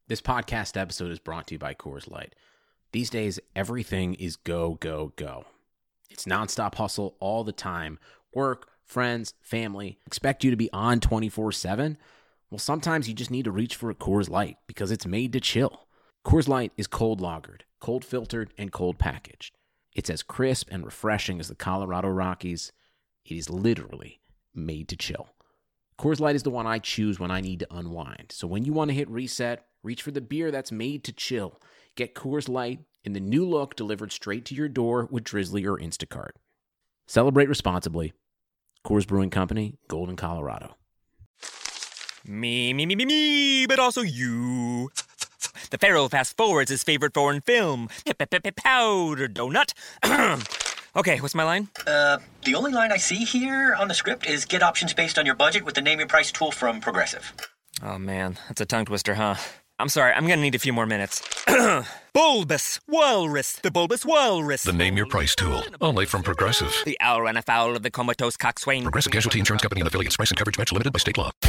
This podcast episode is brought to you by Coors Light. These days, everything is go, go, go. It's nonstop hustle all the time. Work, friends, family, expect you to be on 24/7. Well, sometimes you just need to reach for a Coors Light because it's made to chill. Coors Light is cold lagered, cold filtered, and cold packaged. It's as crisp and refreshing as the Colorado Rockies. It is literally made to chill. Coors Light is the one I choose when I need to unwind. So when you want to hit reset, reach for the beer that's made to chill. Get Coors Light in the new look delivered straight to your door with Drizzly or Instacart. Celebrate responsibly. Coors Brewing Company, Golden, Colorado. Me, but also you. The Pharaoh fast forwards his favorite foreign film, Powder Donut. Okay, what's my line? The only line I see here on the script is get options based on your budget with the Name Your Price tool from Progressive. Oh man, that's a tongue twister, huh? I'm sorry, I'm gonna need a few more minutes. Bulbous Walrus, the Bulbous Walrus. The Name Your Price tool, only from Progressive. The owl ran afoul of the comatose coxswain. Progressive Casualty Insurance Company and affiliates. Price and coverage match limited by state law.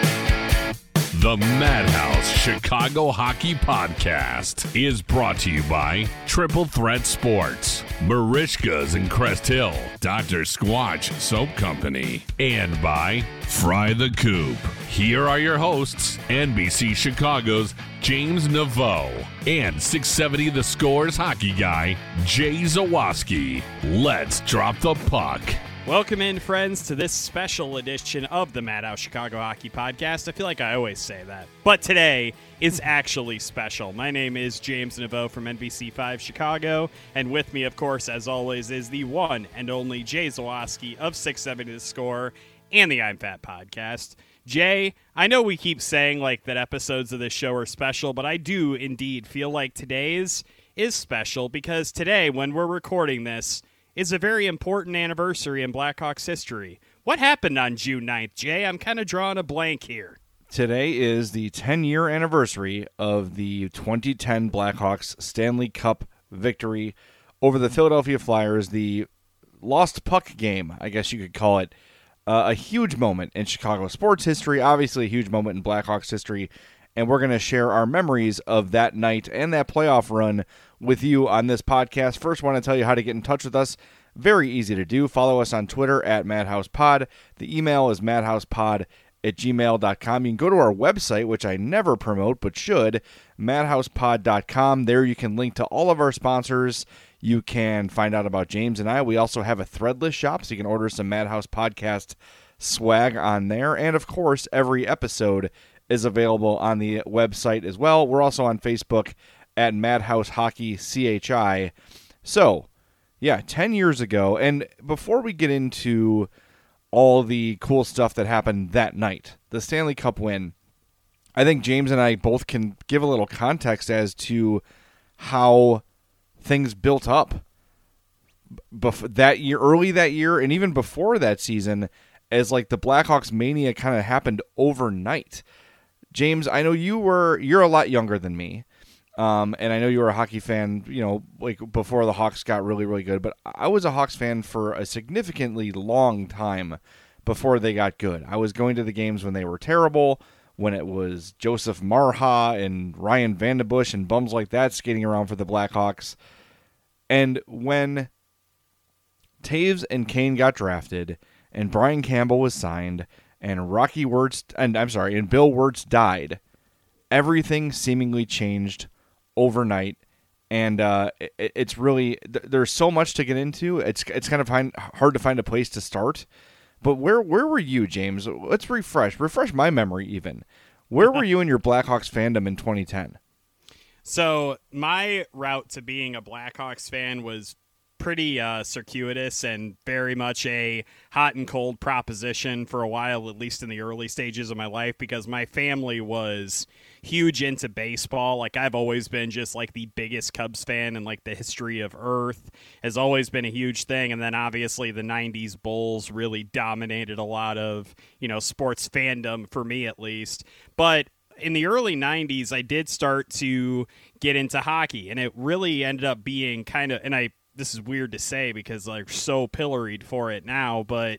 The Madhouse Chicago Hockey Podcast is brought to you by Triple Threat Sports, Marishka's in Crest Hill, Dr. Squatch Soap Company, and by Fry the Coop. Here are your hosts, NBC Chicago's James Naveau and 670 The Scores hockey guy, Jay Zawaski. Let's drop the puck. Welcome in, friends, to this special edition of the Madhouse Chicago Hockey Podcast. I feel like I always say that, but today is actually special. My name is James Naveau from NBC5 Chicago, and with me, of course, as always, is the one and only Jay Zawaski of 670 The Score and the I'm Fat Podcast. Jay, I know we keep saying like that episodes of this show are special, but I do indeed feel like today's is special because today, when we're recording this, is a very important anniversary in Blackhawks history. What happened on June 9th, Jay? I'm kind of drawing a blank here. Today is the 10-year anniversary of the 2010 Blackhawks Stanley Cup victory over the Philadelphia Flyers, the lost puck game, I guess you could call it. A huge moment in Chicago sports history, obviously a huge moment in Blackhawks history, and we're going to share our memories of that night and that playoff run with you on this podcast. First, I want to tell you how to get in touch with us. Very easy to do. Follow us on Twitter at MadhousePod. The email is madhousepod@gmail.com. You can go to our website, which I never promote but should, madhousepod.com. There you can link to all of our sponsors. You can find out about James and I. We also have a Threadless shop, so you can order some Madhouse Podcast swag on there. And, of course, every episode is available on the website as well. We're also on Facebook at Madhouse Hockey CHI. So, yeah, 10 years ago. And before we get into all the cool stuff that happened that night, the Stanley Cup win, I think James and I both can give a little context as to how things built up that year, early that year, and even before that season, as like the Blackhawks mania kind of happened overnight. James, I know you're a lot younger than me, and I know you were a hockey fan, like before the Hawks got really, really good, but I was a Hawks fan for a significantly long time before they got good. I was going to the games when they were terrible, when it was Joseph Marha and Ryan Vandenbush and bums like that skating around for the Blackhawks. And when Taves and Kane got drafted and Brian Campbell was signed and and Bill Wirtz died, everything seemingly changed overnight. And it's really, there's so much to get into. It's kind of hard to find a place to start. But where were you, James? Let's refresh my memory even. Where were you in your Blackhawks fandom in 2010? So my route to being a Blackhawks fan was pretty circuitous and very much a hot and cold proposition for a while, at least in the early stages of my life, because my family was huge into baseball. Like, I've always been just like the biggest Cubs fan in like the history of Earth. Has always been a huge thing. And then obviously the 90s Bulls really dominated a lot of, sports fandom for me at least. But in the early 90s, I did start to get into hockey, and it really ended up being kind of, this is weird to say because I'm so pilloried for it now, but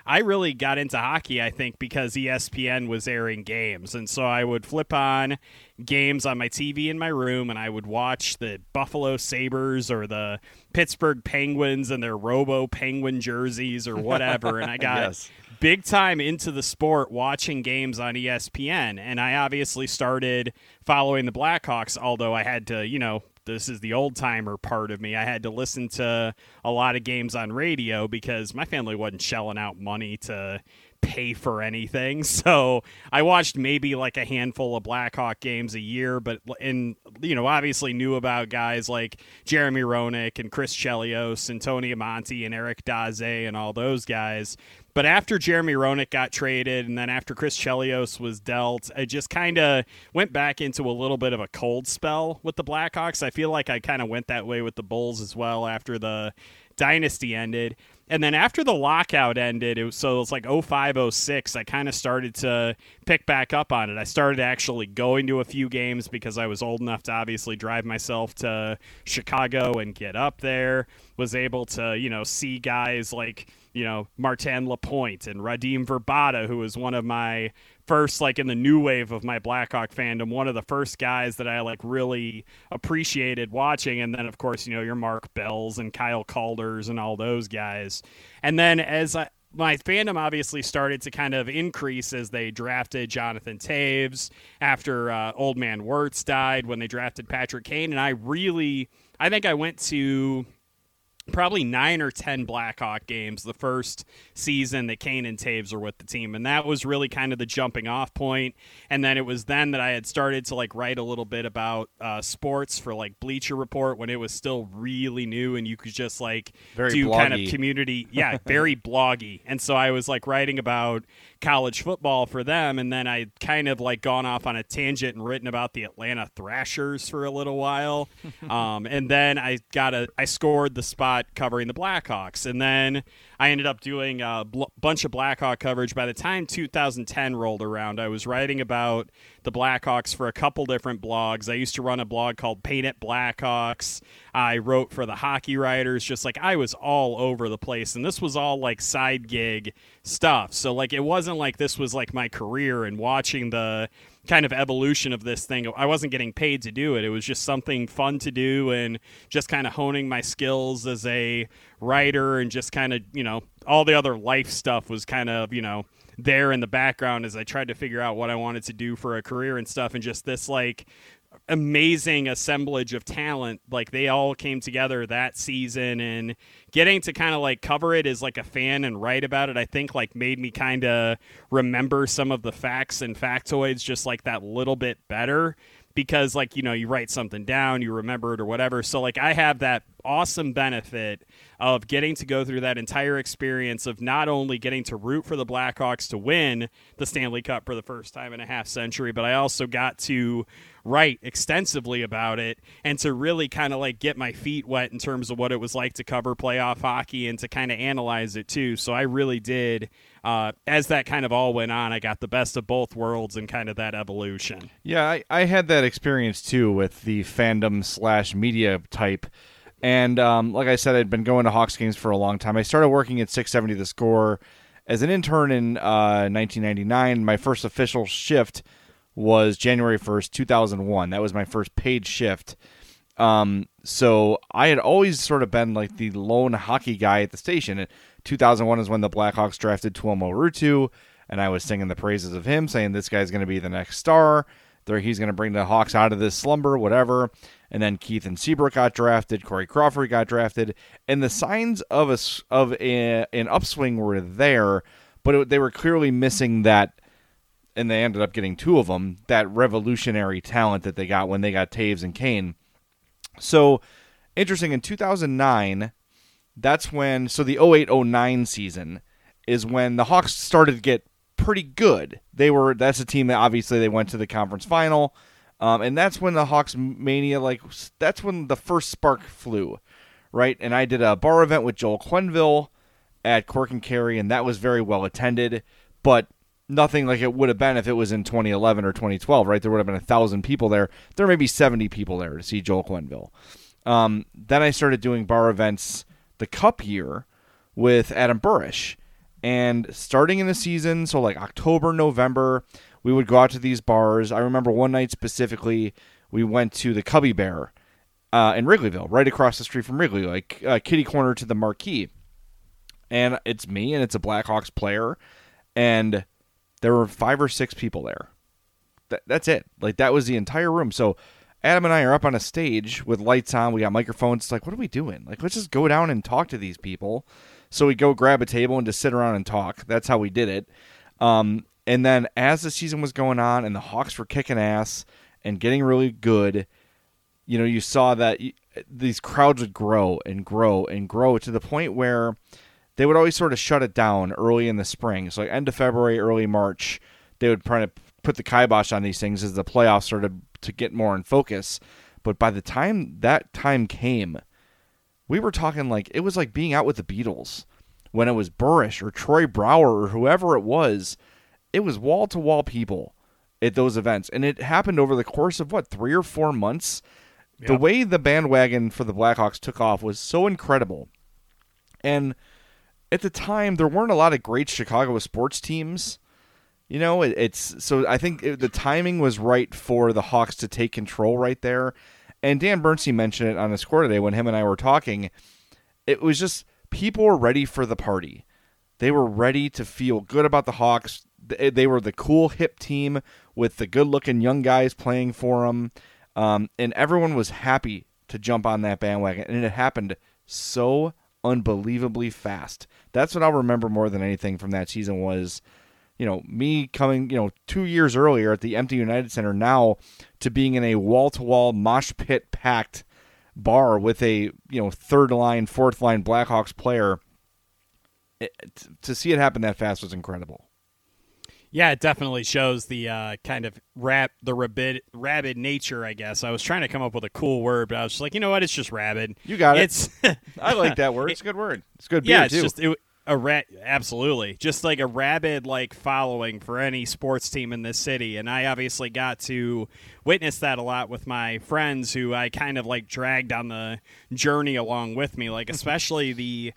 I really got into hockey, I think, because ESPN was airing games. And so I would flip on games on my TV in my room, and I would watch the Buffalo Sabres or the Pittsburgh Penguins and their Robo Penguin jerseys or whatever. And I got big time into the sport watching games on ESPN. And I obviously started following the Blackhawks, although I had to, this is the old-timer part of me. I had to listen to a lot of games on radio because my family wasn't shelling out money to pay for anything. So I watched maybe like a handful of Blackhawk games a year, but obviously knew about guys like Jeremy Roenick and Chris Chelios and Tony Amonte and Eric Daze and all those guys. But after Jeremy Roenick got traded and then after Chris Chelios was dealt, I just kind of went back into a little bit of a cold spell with the Blackhawks. I feel like I kind of went that way with the Bulls as well after the dynasty ended. And then after the lockout ended, it was like 05, 06, I kind of started to pick back up on it. I started actually going to a few games because I was old enough to obviously drive myself to Chicago and get up there, was able to, see guys like, Martin Lapointe and Radim Verbata, who was one of my first, like in the new wave of my Blackhawk fandom, one of the first guys that I like really appreciated watching. And then, of course, your Mark Bells and Kyle Calders and all those guys. And then my fandom obviously started to kind of increase as they drafted Jonathan Toews after Old Man Wirtz died, when they drafted Patrick Kane. And I think I went to probably 9 or 10 Blackhawk games the first season that Kane and Toews were with the team. And that was really kind of the jumping off point. And then it was then that I had started to like write a little bit about sports for like Bleacher Report when it was still really new and you could just like do bloggy. Kind of community. Yeah, very bloggy. And so I was like writing about college football for them. And then I kind of like gone off on a tangent and written about the Atlanta Thrashers for a little while. And then I scored the spot covering the Blackhawks, and then I ended up doing a bunch of Blackhawk coverage. By the time 2010 rolled around, I was writing about the Blackhawks for a couple different blogs. I used to run a blog called Paint It Blackhawks. I wrote for the Hockey Writers, just like I was all over the place, and this was all like side gig stuff. So like it wasn't like this was like my career, and watching the kind of evolution of this thing, I wasn't getting paid to do it. It was just something fun to do and just kind of honing my skills as a writer, and just kind of, all the other life stuff was kind of, there in the background as I tried to figure out what I wanted to do for a career and stuff. And just this like amazing assemblage of talent, like they all came together that season, and getting to kind of like cover it as like a fan and write about it, I think like made me kind of remember some of the facts and factoids just like that little bit better, because like, you write something down, you remember it or whatever. So like I have that awesome benefit of getting to go through that entire experience of not only getting to root for the Blackhawks to win the Stanley Cup for the first time in a half century, but I also got to write extensively about it and to really kind of like get my feet wet in terms of what it was like to cover playoff hockey and to kind of analyze it too. So I really did, as that kind of all went on, I got the best of both worlds and kind of that evolution. Yeah, I had that experience too with the fandom/media type. And like I said, I'd been going to Hawks games for a long time. I started working at 670 The Score as an intern in 1999. My first official shift was January 1st, 2001. That was my first paid shift. So I had always sort of been like the lone hockey guy at the station. And 2001 is when the Blackhawks drafted Tuomo Ruutu, and I was singing the praises of him, saying this guy's going to be the next star. He's going to bring the Hawks out of this slumber, whatever. And then Keith and Seabrook got drafted. Corey Crawford got drafted. And the signs of an upswing were there, but they were clearly missing that, and they ended up getting two of them, that revolutionary talent that they got when they got Toews and Kane. So, interesting, in 2009, that's when, so the 08-09 season is when the Hawks started to get pretty good. That's a team that obviously they went to the conference final, and that's when the Hawks mania, that's when the first spark flew, right? And I did a bar event with Joel Quenneville at Cork and Kerry, and that was very well attended, but nothing like it would have been if it was in 2011 or 2012, right? There would have been 1,000 people there. There may be 70 people there to see Joel Quenneville. Then I started doing bar events the Cup year with Adam Burish. And starting in the season, so like October, November, we would go out to these bars. I remember one night specifically, we went to the Cubby Bear in Wrigleyville, right across the street from Wrigley, like kitty corner to the Marquee. And it's me, and it's a Blackhawks player, and there were 5 or 6 people there. That's it. Like, that was the entire room. So Adam and I are up on a stage with lights on. We got microphones. It's like, what are we doing? Like, let's just go down and talk to these people. So we go grab a table and just sit around and talk. That's how we did it. And then as the season was going on and the Hawks were kicking ass and getting really good, you know, you saw that these crowds would grow and grow and grow to the point where they would always sort of shut it down early in the spring. So like end of February, early March, they would try to put the kibosh on these things as the playoffs started to get more in focus. But by the time that time came, we were talking like it was like being out with the Beatles when it was Burrish or Troy Brower or whoever it was. It was wall-to-wall people at those events. And it happened over the course of, 3 or 4 months? Yep. The way the bandwagon for the Blackhawks took off was so incredible. And at the time, there weren't a lot of great Chicago sports teams. You know, so I think the timing was right for the Hawks to take control right there. And Dan Bernstein mentioned it on the score today when him and I were talking. It was just people were ready for the party. They were ready to feel good about the Hawks. They were the cool, hip team with the good-looking young guys playing for them. And everyone was happy to jump on that bandwagon. And it happened so unbelievably fast. That's what I'll remember more than anything from that season was, you know, me coming, 2 years earlier at the empty United Center now to being in a wall-to-wall mosh pit packed bar with a, third line, fourth line Blackhawks player. To see it happen that fast was incredible. Yeah, it definitely shows the kind of rabid nature, I guess. I was trying to come up with a cool word, but I was just like, you know what? It's just rabid. You got it. I like that word. It's a good word. It's good beer, too. Yeah, it's just absolutely. Just like a rabid following for any sports team in this city. And I obviously got to witness that a lot with my friends who I kind of dragged on the journey along with me. Especially the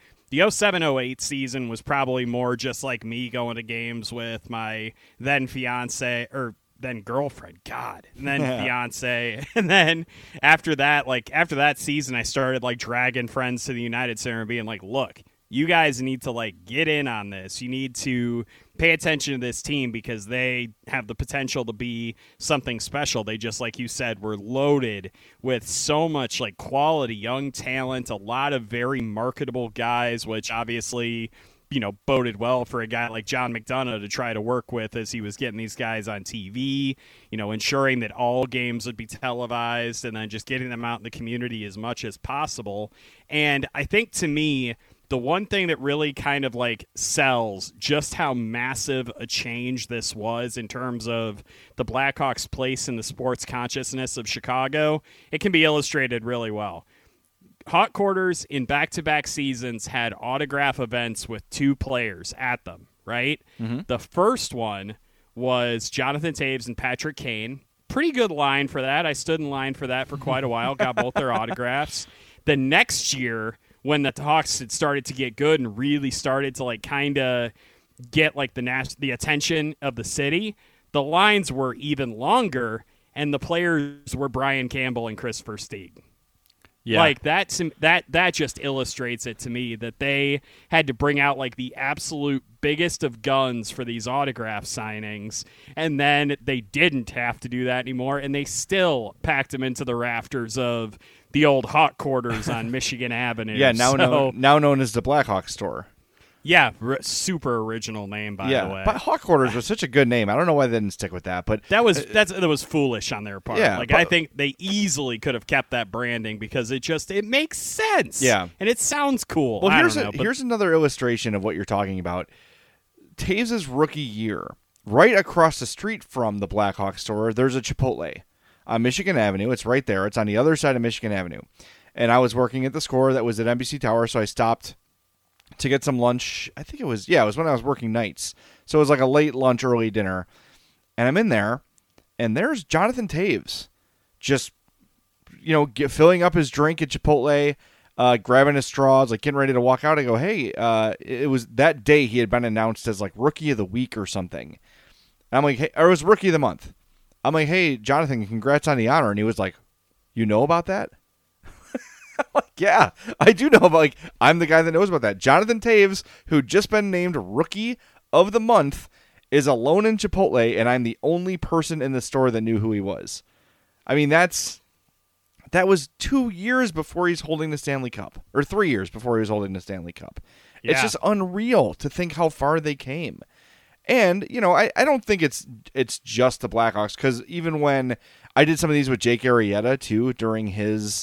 07-08 season was probably more just like me going to games with my then fiance or then girlfriend, and then fiance. And then after that season, I started dragging friends to the United Center and being like, look, you guys need to get in on this. You need to pay attention to this team because they have the potential to be something special. They just, like you said, were loaded with so much quality young talent, a lot of very marketable guys, which obviously, boded well for a guy like John McDonough to try to work with as he was getting these guys on TV, ensuring that all games would be televised and then just getting them out in the community as much as possible. And I think to me, the one thing that really kind of sells just how massive a change this was in terms of the Blackhawks' place in the sports consciousness of Chicago, it can be illustrated really well. Hawk Quarters in back-to-back seasons had autograph events with 2 players at them, right? Mm-hmm. The first one was Jonathan Toews and Patrick Kane. Pretty good line for that. I stood in line for that for quite a while, got both their autographs. The next year, when the Hawks had started to get good and really started to kind of get the attention of the city, the lines were even longer, and the players were Brian Campbell and Chris Versteeg. Yeah. That just illustrates it to me that they had to bring out the absolute biggest of guns for these autograph signings, and then they didn't have to do that anymore, and they still packed them into the rafters of the old Hawk Quarters on Michigan Avenue. Yeah, now known as the Blackhawk Store. Yeah, super original name, by the way. But Hawk Quarters was such a good name. I don't know why they didn't stick with that, but that was foolish on their part. Yeah, I think they easily could have kept that branding because it makes sense. Yeah, and it sounds cool. Well, here's another illustration of what you're talking about. Toews' rookie year, right across the street from the Blackhawk Store, there's a Chipotle on Michigan Avenue. It's right there. It's on the other side of Michigan Avenue. And I was working at the Score that was at NBC Tower, so I stopped to get some lunch. I think it was when I was working nights. So it was a late lunch, early dinner. And I'm in there, and there's Jonathan Toews just, filling up his drink at Chipotle. grabbing his straws, like getting ready to walk out. I go, hey, it was that day he had been announced as like Rookie of the Week or something. And I'm like, hey, or it was Rookie of the Month. I'm like, hey, Jonathan, congrats on the honor. And he was like, you know about that? I'm like, yeah, I do know about, like, I'm the guy that knows about that. Jonathan Taves, who just been named Rookie of the Month, is alone in Chipotle, and I'm the only person in the store that knew who he was. I mean, that was 2 years before he's holding the Stanley Cup, or 3 years before he was holding the Stanley Cup. Yeah. It's just unreal to think how far they came. And, you know, I don't think it's just the Blackhawks, because even when I did some of these with Jake Arrieta, too, during his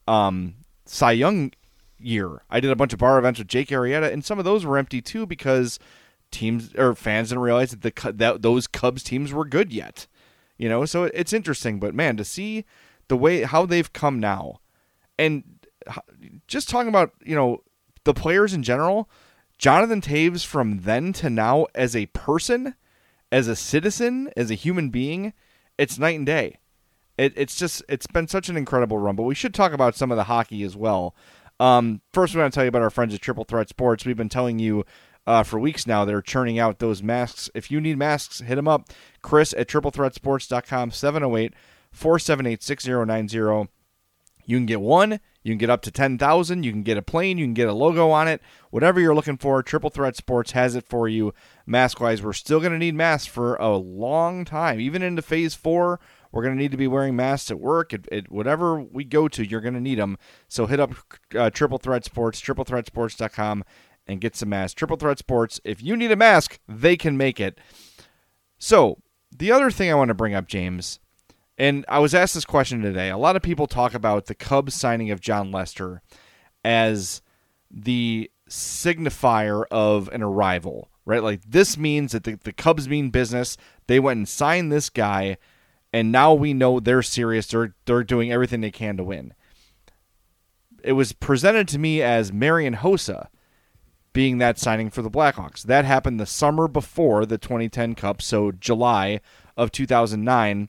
Cy Young year, I did a bunch of bar events with Jake Arrieta, and some of those were empty, too, because teams or fans didn't realize that those Cubs teams were good yet. You know, so it's interesting. But, man, to see the way how they've come now, and just talking about, you know, the players in general, Jonathan Taves from then to now as a person, as a citizen, as a human being, it's night and day. It's been such an incredible run. But we should talk about some of the hockey as well. First, we want to tell you about our friends at Triple Threat Sports. We've been telling you for weeks now they're churning out those masks. If you need masks, hit them up. Chris at triplethreatsports.com, 708-478-6090. You can get one. You can get up to 10,000. You can get a plane. You can get a logo on it. Whatever you're looking for, Triple Threat Sports has it for you. Mask-wise, we're still going to need masks for a long time. Even into Phase 4, we're going to need to be wearing masks at work. At whatever we go to, you're going to need them. So hit up Triple Threat Sports, triplethreatsports.com, and get some masks. Triple Threat Sports, if you need a mask, they can make it. So the other thing I want to bring up, James, and I was asked this question today. A lot of people talk about the Cubs signing of John Lester as the signifier of an arrival, right? Like, this means that the Cubs mean business. They went and signed this guy, and now we know they're serious. They're doing everything they can to win. It was presented to me as Marian Hossa being that signing for the Blackhawks. That happened the summer before the 2010 Cup, so July of 2009.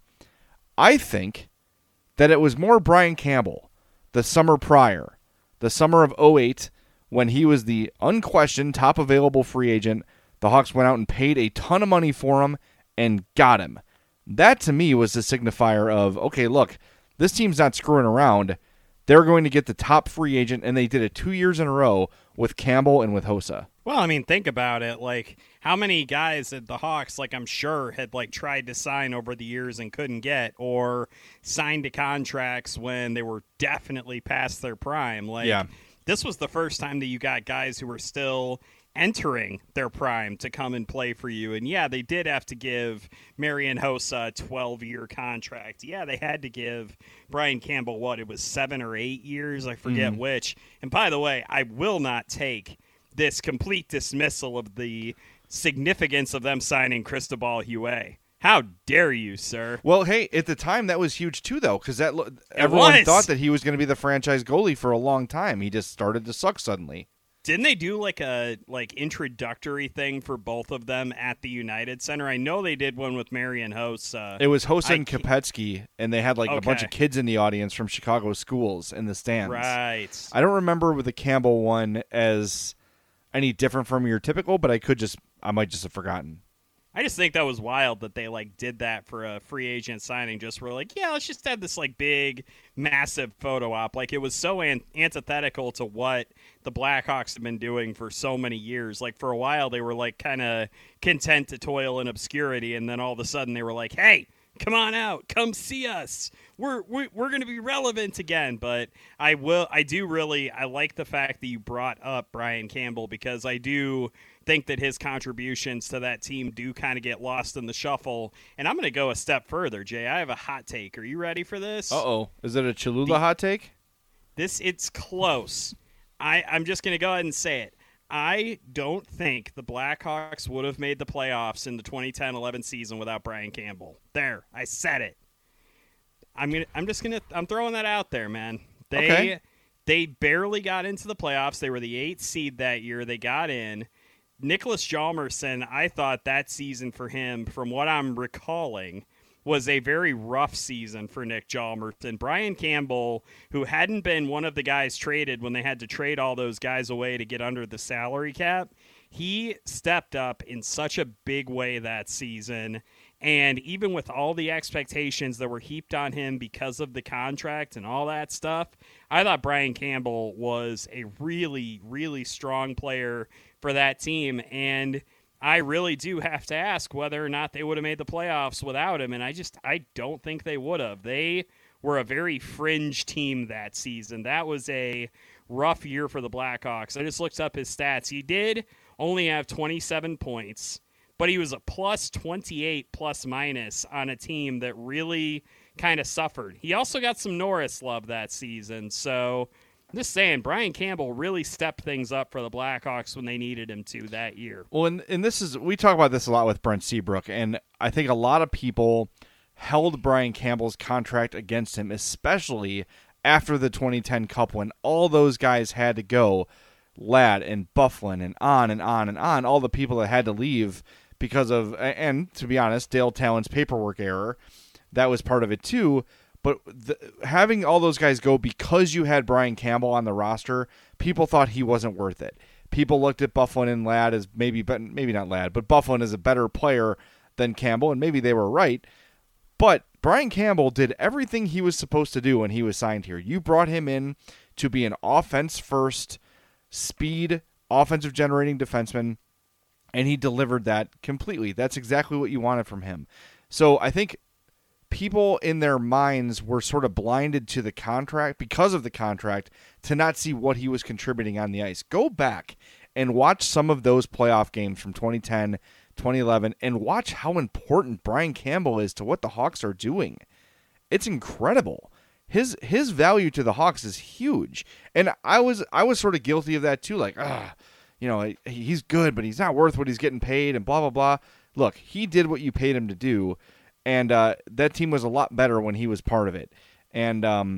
I think that it was more Brian Campbell the summer prior, the summer of 2008, when he was the unquestioned top available free agent. The Hawks went out and paid a ton of money for him and got him. That, to me, was the signifier of, okay, look, this team's not screwing around. They're going to get the top free agent, and they did it 2 years in a row with Campbell and with Hossa. Well, I mean, think about it. Like, how many guys at the Hawks, like, I'm sure had, like, tried to sign over the years and couldn't get, or signed to contracts when they were definitely past their prime. Like, yeah. This was the first time that you got guys who were still entering their prime to come and play for you. And yeah, they did have to give Marian Hossa a 12-year contract. Yeah, they had to give Brian Campbell, what, it was 7 or 8 years? I forget which. And by the way, I will not take this complete dismissal of the significance of them signing Cristobal Huet. How dare you, sir? Well, hey, at the time, that was huge, too, though, because everyone thought that he was going to be the franchise goalie for a long time. He just started to suck suddenly. Didn't they do like a introductory thing for both of them at the United Center? I know they did one with Marian Hossa. It was Hossa and Kopetsky, and they had like a bunch of kids in the audience from Chicago schools in the stands. Right. I don't remember with the Campbell one as any different from your typical, but I might just have forgotten. I just think that was wild that they like did that for a free agent signing. Just were like, yeah, let's just have this like big, massive photo op. Like, it was so antithetical to what the Blackhawks have been doing for so many years. Like, for a while they were like kind of content to toil in obscurity, and then all of a sudden they were like, hey, come on out, come see us. We're going to be relevant again. But I like the fact that you brought up Brian Campbell, because I do think that his contributions to that team do kind of get lost in the shuffle. And I'm going to go a step further, Jay. I have a hot take. Are you ready for this? Uh-oh. Is it a Cholula hot take? It's close. I'm just going to go ahead and say it. I don't think the Blackhawks would have made the playoffs in the 2010-11 season without Brian Campbell. There, I said it. I'm throwing that out there, man. They barely got into the playoffs. They were the 8th seed that year. They got in. Nicholas Hjalmarsson, I thought that season for him, from what I'm recalling, was a very rough season for Nick Hjalmarsson. Brian Campbell, who hadn't been one of the guys traded when they had to trade all those guys away to get under the salary cap, he stepped up in such a big way that season. And even with all the expectations that were heaped on him because of the contract and all that stuff, I thought Brian Campbell was a really, really strong player for that team. And I really do have to ask whether or not they would have made the playoffs without him, and I don't think they would have. They were a very fringe team that season. That was a rough year for the Blackhawks. I just looked up his stats. He did only have 27 points, but he was a plus 28 plus minus on a team that really kind of suffered. He also got some Norris love that season, so I'm just saying, Brian Campbell really stepped things up for the Blackhawks when they needed him to that year. Well, and this is, we talk about this a lot with Brent Seabrook, and I think a lot of people held Brian Campbell's contract against him, especially after the 2010 Cup when all those guys had to go, Ladd and Byfuglien and on and on and on, all the people that had to leave because of, and to be honest, Dale Talon's paperwork error, that was part of it too. But having all those guys go because you had Brian Campbell on the roster, people thought he wasn't worth it. People looked at Byfuglien and Ladd as maybe not Ladd, but Byfuglien as a better player than Campbell, and maybe they were right. But Brian Campbell did everything he was supposed to do when he was signed here. You brought him in to be an offense-first, speed, offensive-generating defenseman, and he delivered that completely. That's exactly what you wanted from him. So I think people in their minds were sort of blinded to the contract because of the contract to not see what he was contributing on the ice. Go back and watch some of those playoff games from 2010, 2011, and watch how important Brian Campbell is to what the Hawks are doing. It's incredible. His value to the Hawks is huge. And I was sort of guilty of that too. Like, he's good, but he's not worth what he's getting paid and blah, blah, blah. Look, he did what you paid him to do. And that team was a lot better when he was part of it. And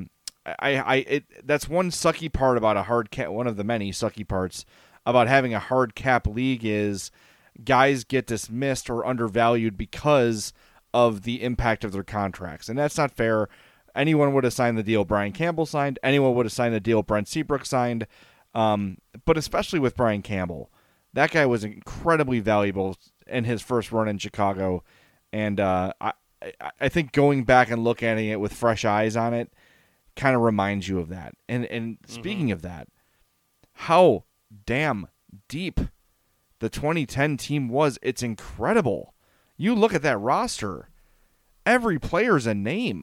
that's one sucky part about a hard cap. One of the many sucky parts about having a hard cap league is guys get dismissed or undervalued because of the impact of their contracts. And that's not fair. Anyone would have signed the deal Brian Campbell signed. Anyone would have signed the deal Brent Seabrook signed. But especially with Brian Campbell, that guy was incredibly valuable in his first run in Chicago. And I think going back and looking at it with fresh eyes on it kind of reminds you of that. And speaking of that, how damn deep the 2010 team was. It's incredible. You look at that roster, every player's a name.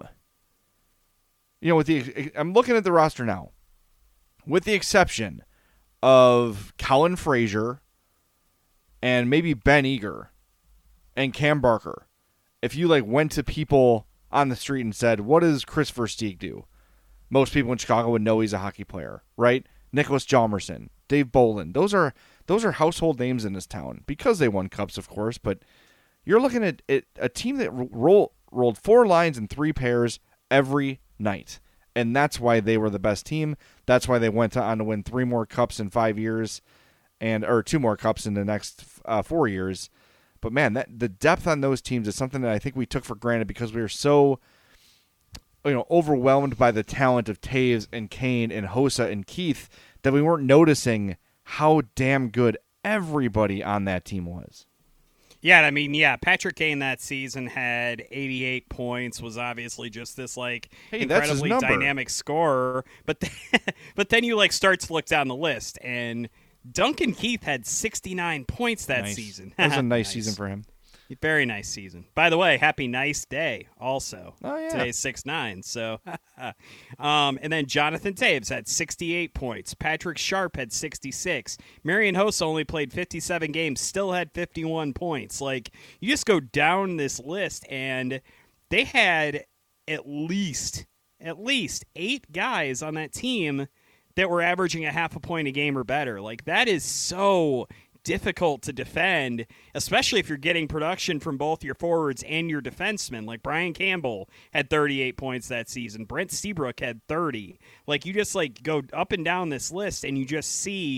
I'm looking at the roster now, with the exception of Colin Fraser and maybe Ben Eager and Cam Barker. If you went to people on the street and said, what does Chris Versteeg do? Most people in Chicago would know he's a hockey player, right? Nicholas Hjalmarsson, Dave Bolin. Those are household names in this town because they won cups, of course. But you're looking at a team that rolled 4 lines and 3 pairs every night. And that's why they were the best team. That's why they went on to win 3 more cups in 5 years or 2 more cups in the next 4 years. But man, the depth on those teams is something that I think we took for granted because we were so, overwhelmed by the talent of Taves and Kane and Hossa and Keith that we weren't noticing how damn good everybody on that team was. Yeah, Patrick Kane that season had 88 points, was obviously just this incredibly dynamic scorer. But then you start to look down the list, and Duncan Keith had 69 points that season. That was a nice season for him. Very nice season. By the way, happy nice day also. Oh, yeah. Today's 6-9. So, and then Jonathan Taves had 68 points. Patrick Sharp had 66. Marian Hossa only played 57 games, still had 51 points. You just go down this list, and they had at least 8 guys on that team that were averaging a half a point a game or better. That is so difficult to defend, especially if you're getting production from both your forwards and your defensemen. Brian Campbell had 38 points that season. Brent Seabrook had 30. You just go up and down this list and you just see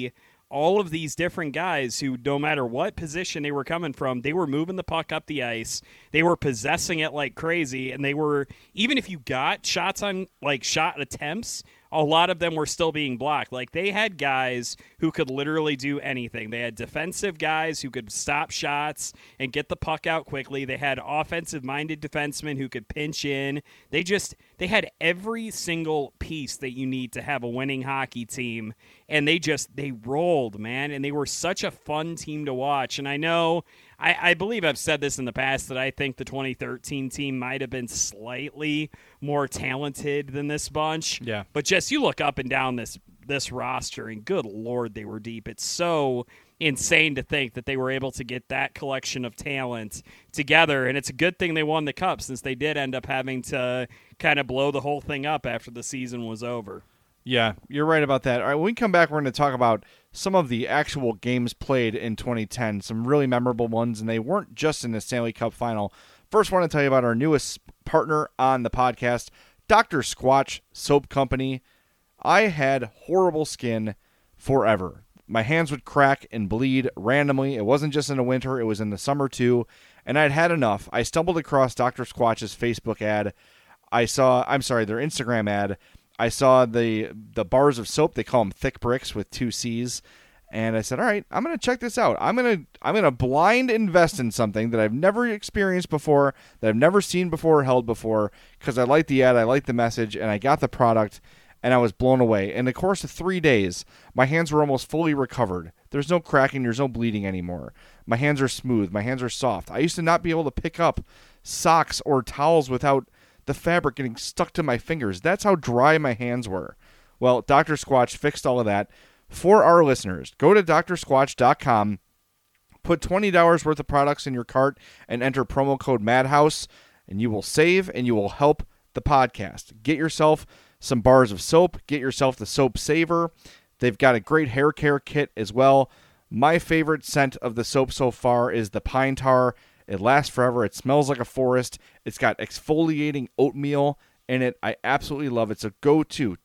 all of these different guys who, no matter what position they were coming from, they were moving the puck up the ice. They were possessing it like crazy, and they were, even if you got shots on, like, shot attempts, a lot of them were still being blocked. Like, they had guys who could literally do anything. They had defensive guys who could stop shots and get the puck out quickly. They had offensive-minded defensemen who could pinch in. They had every single piece that you need to have a winning hockey team, and they rolled, man, and they were such a fun team to watch. And I know, I believe I've said this in the past, that I think the 2013 team might have been slightly more talented than this bunch. Yeah. But just, you look up and down this roster, and good Lord, they were deep. It's so insane to think that they were able to get that collection of talent together, and it's a good thing they won the Cup, since they did end up having to kind of blow the whole thing up after the season was over. Yeah, you're right about that. All right, when we come back, we're going to talk about some of the actual games played in 2010, some really memorable ones, and they weren't just in the Stanley Cup final. First, I want to tell you about our newest partner on the podcast, Dr. Squatch Soap Company. I had horrible skin forever. My hands would crack and bleed randomly. It wasn't just in the winter, it was in the summer too, and I'd had enough. I stumbled across Dr. Squatch's Facebook ad. Their Instagram ad. I saw the bars of soap. They call them thick bricks with 2 C's. And I said, all right, I'm going to check this out. I'm going to blind invest in something that I've never experienced before, that I've never seen before or held before, because I like the ad, I like the message, and I got the product, and I was blown away. In the course of 3 days, my hands were almost fully recovered. There's no cracking, there's no bleeding anymore. My hands are smooth, my hands are soft. I used to not be able to pick up socks or towels without the fabric getting stuck to my fingers. That's how dry my hands were. Well, Dr. Squatch fixed all of that. For our listeners, go to drsquatch.com, put $20 worth of products in your cart, and enter promo code MADHOUSE, and you will save and you will help the podcast. Get yourself some bars of soap. Get yourself the Soap Saver. They've got a great hair care kit as well. My favorite scent of the soap so far is the pine tar. It lasts forever. It smells like a forest. It's got exfoliating oatmeal in it. I absolutely love it. So go to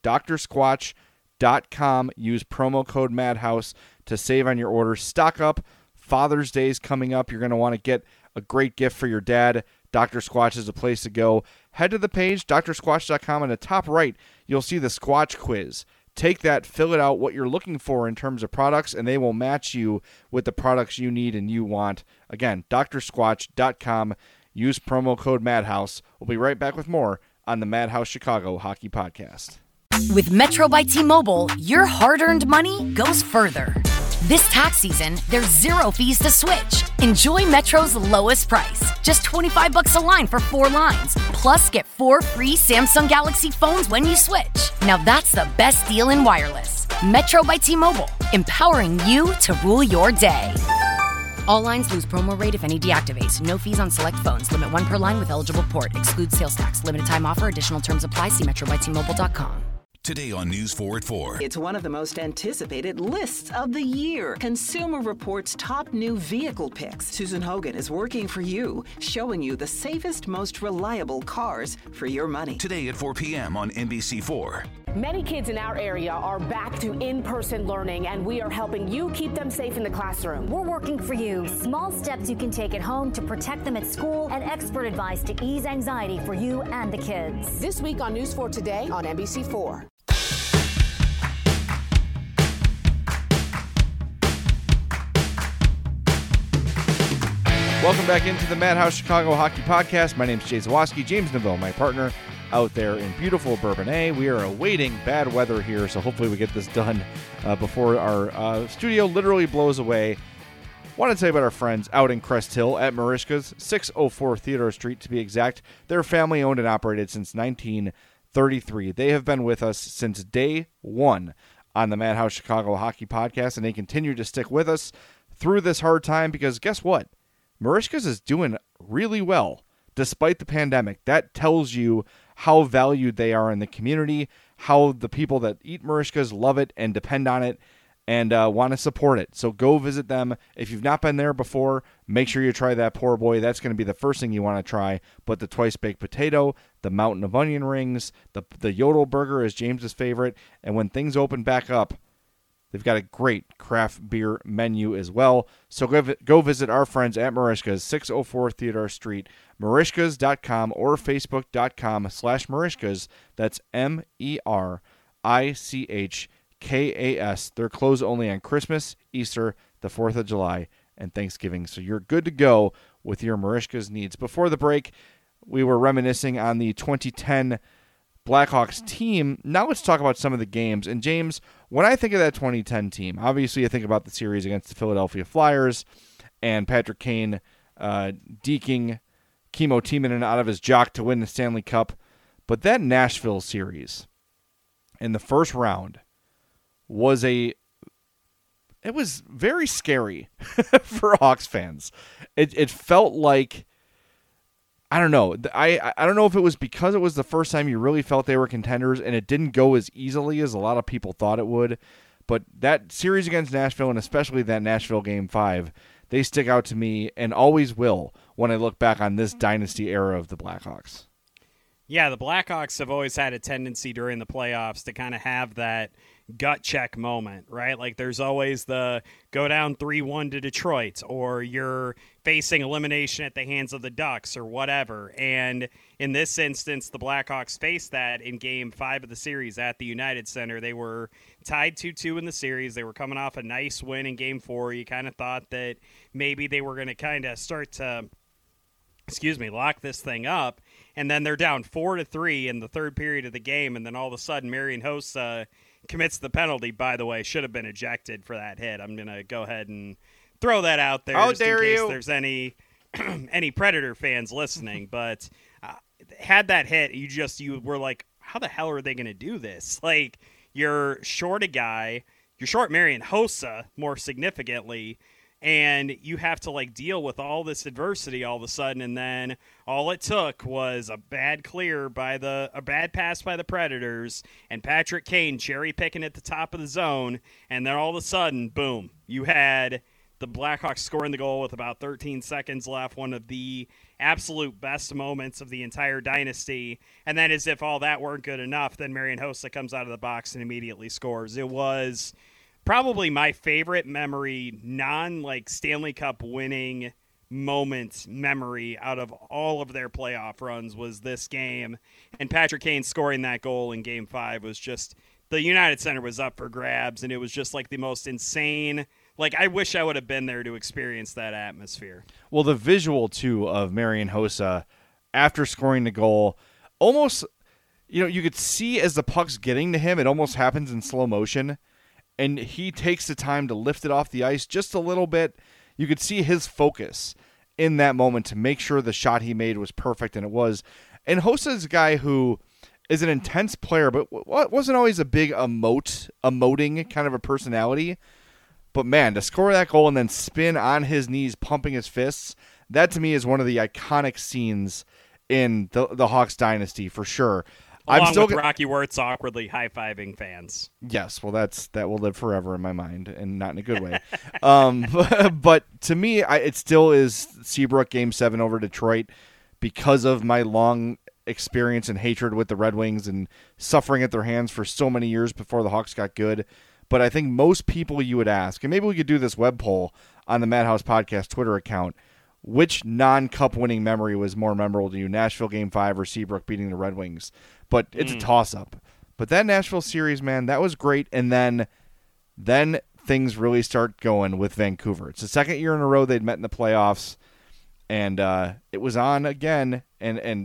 drsquatch.com. Use promo code MADHOUSE to save on your order. Stock up. Father's Day is coming up. You're going to want to get a great gift for your dad. Dr. Squatch is a place to go. Head to the page, drsquatch.com. On the top right, you'll see the Squatch quiz. Take that, fill it out, what you're looking for in terms of products, and they will match you with the products you need and you want. Again, drsquatch.com. Use promo code MADHOUSE. We'll be right back with more on the Madhouse Chicago Hockey Podcast. With Metro by T-Mobile, your hard-earned money goes further. This tax season, there's 0 fees to switch. Enjoy Metro's lowest price, just $25 a line for 4 lines. Plus, get 4 free Samsung Galaxy phones when you switch. Now that's the best deal in wireless. Metro by T-Mobile, empowering you to rule your day. All lines lose promo rate if any deactivates. No fees on select phones. Limit 1 per line with eligible port. Excludes sales tax. Limited time offer. Additional terms apply. See metrobytmobile.com. Today on News 4 at 4. It's one of the most anticipated lists of the year. Consumer Reports' top new vehicle picks. Susan Hogan is working for you, showing you the safest, most reliable cars for your money. Today at 4 p.m. on NBC4. Many kids in our area are back to in-person learning, and we are helping you keep them safe in the classroom. We're working for you. Small steps you can take at home to protect them at school, and expert advice to ease anxiety for you and the kids. This week on News 4 Today on NBC4. Welcome back into the Madhouse Chicago Hockey Podcast. My name is Jay Zawoski. James Neville, my partner, out there in beautiful Bourbonnais. We are awaiting bad weather here, so hopefully we get this done before our studio literally blows away. Want to tell you about our friends out in Crest Hill at Merichka's, 604 Theodore Street to be exact. They're family owned and operated since 1933. They have been with us since day one on the Madhouse Chicago Hockey Podcast, and they continue to stick with us through this hard time because guess what? Merichka's is doing really well despite the pandemic. That tells you how valued they are in the community, how the people that eat Merichka's love it and depend on it and want to support it. So go visit them. If you've not been there before, make sure you try that poor boy. That's going to be the first thing you want to try. But the twice baked potato, the mountain of onion rings, the Yodel burger is James's favorite. And when things open back up, They've got a great craft beer menu as well. So go visit our friends at Merichka's, 604 Theodore Street, Merichkas.com or Facebook.com/Merichkas. That's MERICHKAS. They're closed only on Christmas, Easter, the 4th of July, and Thanksgiving. So you're good to go with your Merichka's needs. Before the break, we were reminiscing on the 2010 Blackhawks team. Now let's talk about some of the games. And James, when I think of that 2010 team, obviously I think about the series against the Philadelphia Flyers and Patrick Kane deking Kimmo Timonen out of his jock to win the Stanley Cup. But that Nashville series in the first round was it was very scary for Hawks fans. It felt like, I don't know. I don't know if it was because it was the first time you really felt they were contenders and it didn't go as easily as a lot of people thought it would. But that series against Nashville, and especially that Nashville Game 5, they stick out to me and always will when I look back on this dynasty era of the Blackhawks. Yeah, the Blackhawks have always had a tendency during the playoffs to kind of have that gut check moment, right? Like there's always the go down 3-1 to Detroit, or you're facing elimination at the hands of the Ducks or whatever. And in this instance, the Blackhawks faced that in Game 5 of the series at the United Center. They were tied 2-2 in the series. They were coming off a nice win in Game 4. You kind of thought that maybe they were going to kind of start to lock this thing up, and then they're down 4-3 in the third period of the game, and then all of a sudden Marian Hossa commits the penalty. By the way, should have been ejected for that hit. I'm gonna go ahead and throw that out there just in case there's any Predator fans listening. But had that hit, you were like, how the hell are they gonna do this? Like, you're short a guy, you're short Marian Hossa more significantly, and you have to like deal with all this adversity all of a sudden, and then all it took was a bad pass by the Predators and Patrick Kane cherry picking at the top of the zone, and then all of a sudden, boom, you had the Blackhawks scoring the goal with about 13 seconds left, one of the absolute best moments of the entire dynasty. And then as if all that weren't good enough, then Marian Hossa comes out of the box and immediately scores. It was probably my favorite memory, Stanley Cup winning moment memory out of all of their playoff runs was this game. And Patrick Kane scoring that goal in Game 5 was just, the United Center was up for grabs, and it was just like the most insane. Like, I wish I would have been there to experience that atmosphere. Well, the visual, too, of Marian Hossa after scoring the goal, almost, you could see as the puck's getting to him, it almost happens in slow motion. And he takes the time to lift it off the ice just a little bit. You could see his focus in that moment to make sure the shot he made was perfect, and it was. And Hossa's a guy who is an intense player, but wasn't always a big emoting kind of a personality. But, man, to score that goal and then spin on his knees, pumping his fists, that to me is one of the iconic scenes in the Hawks dynasty for sure. Along with Rocky Wirtz awkwardly high-fiving fans. Yes, well, that will live forever in my mind, and not in a good way. But to me, it still is Seabrook Game 7 over Detroit because of my long experience and hatred with the Red Wings and suffering at their hands for so many years before the Hawks got good. But I think most people you would ask, and maybe we could do this web poll on the Madhouse Podcast Twitter account, which non-cup winning memory was more memorable to you, Nashville Game 5 or Seabrook beating the Red Wings? But it's a toss-up. But that Nashville series, man, that was great. And then things really start going with Vancouver. It's the second year in a row they'd met in the playoffs, and it was on again. And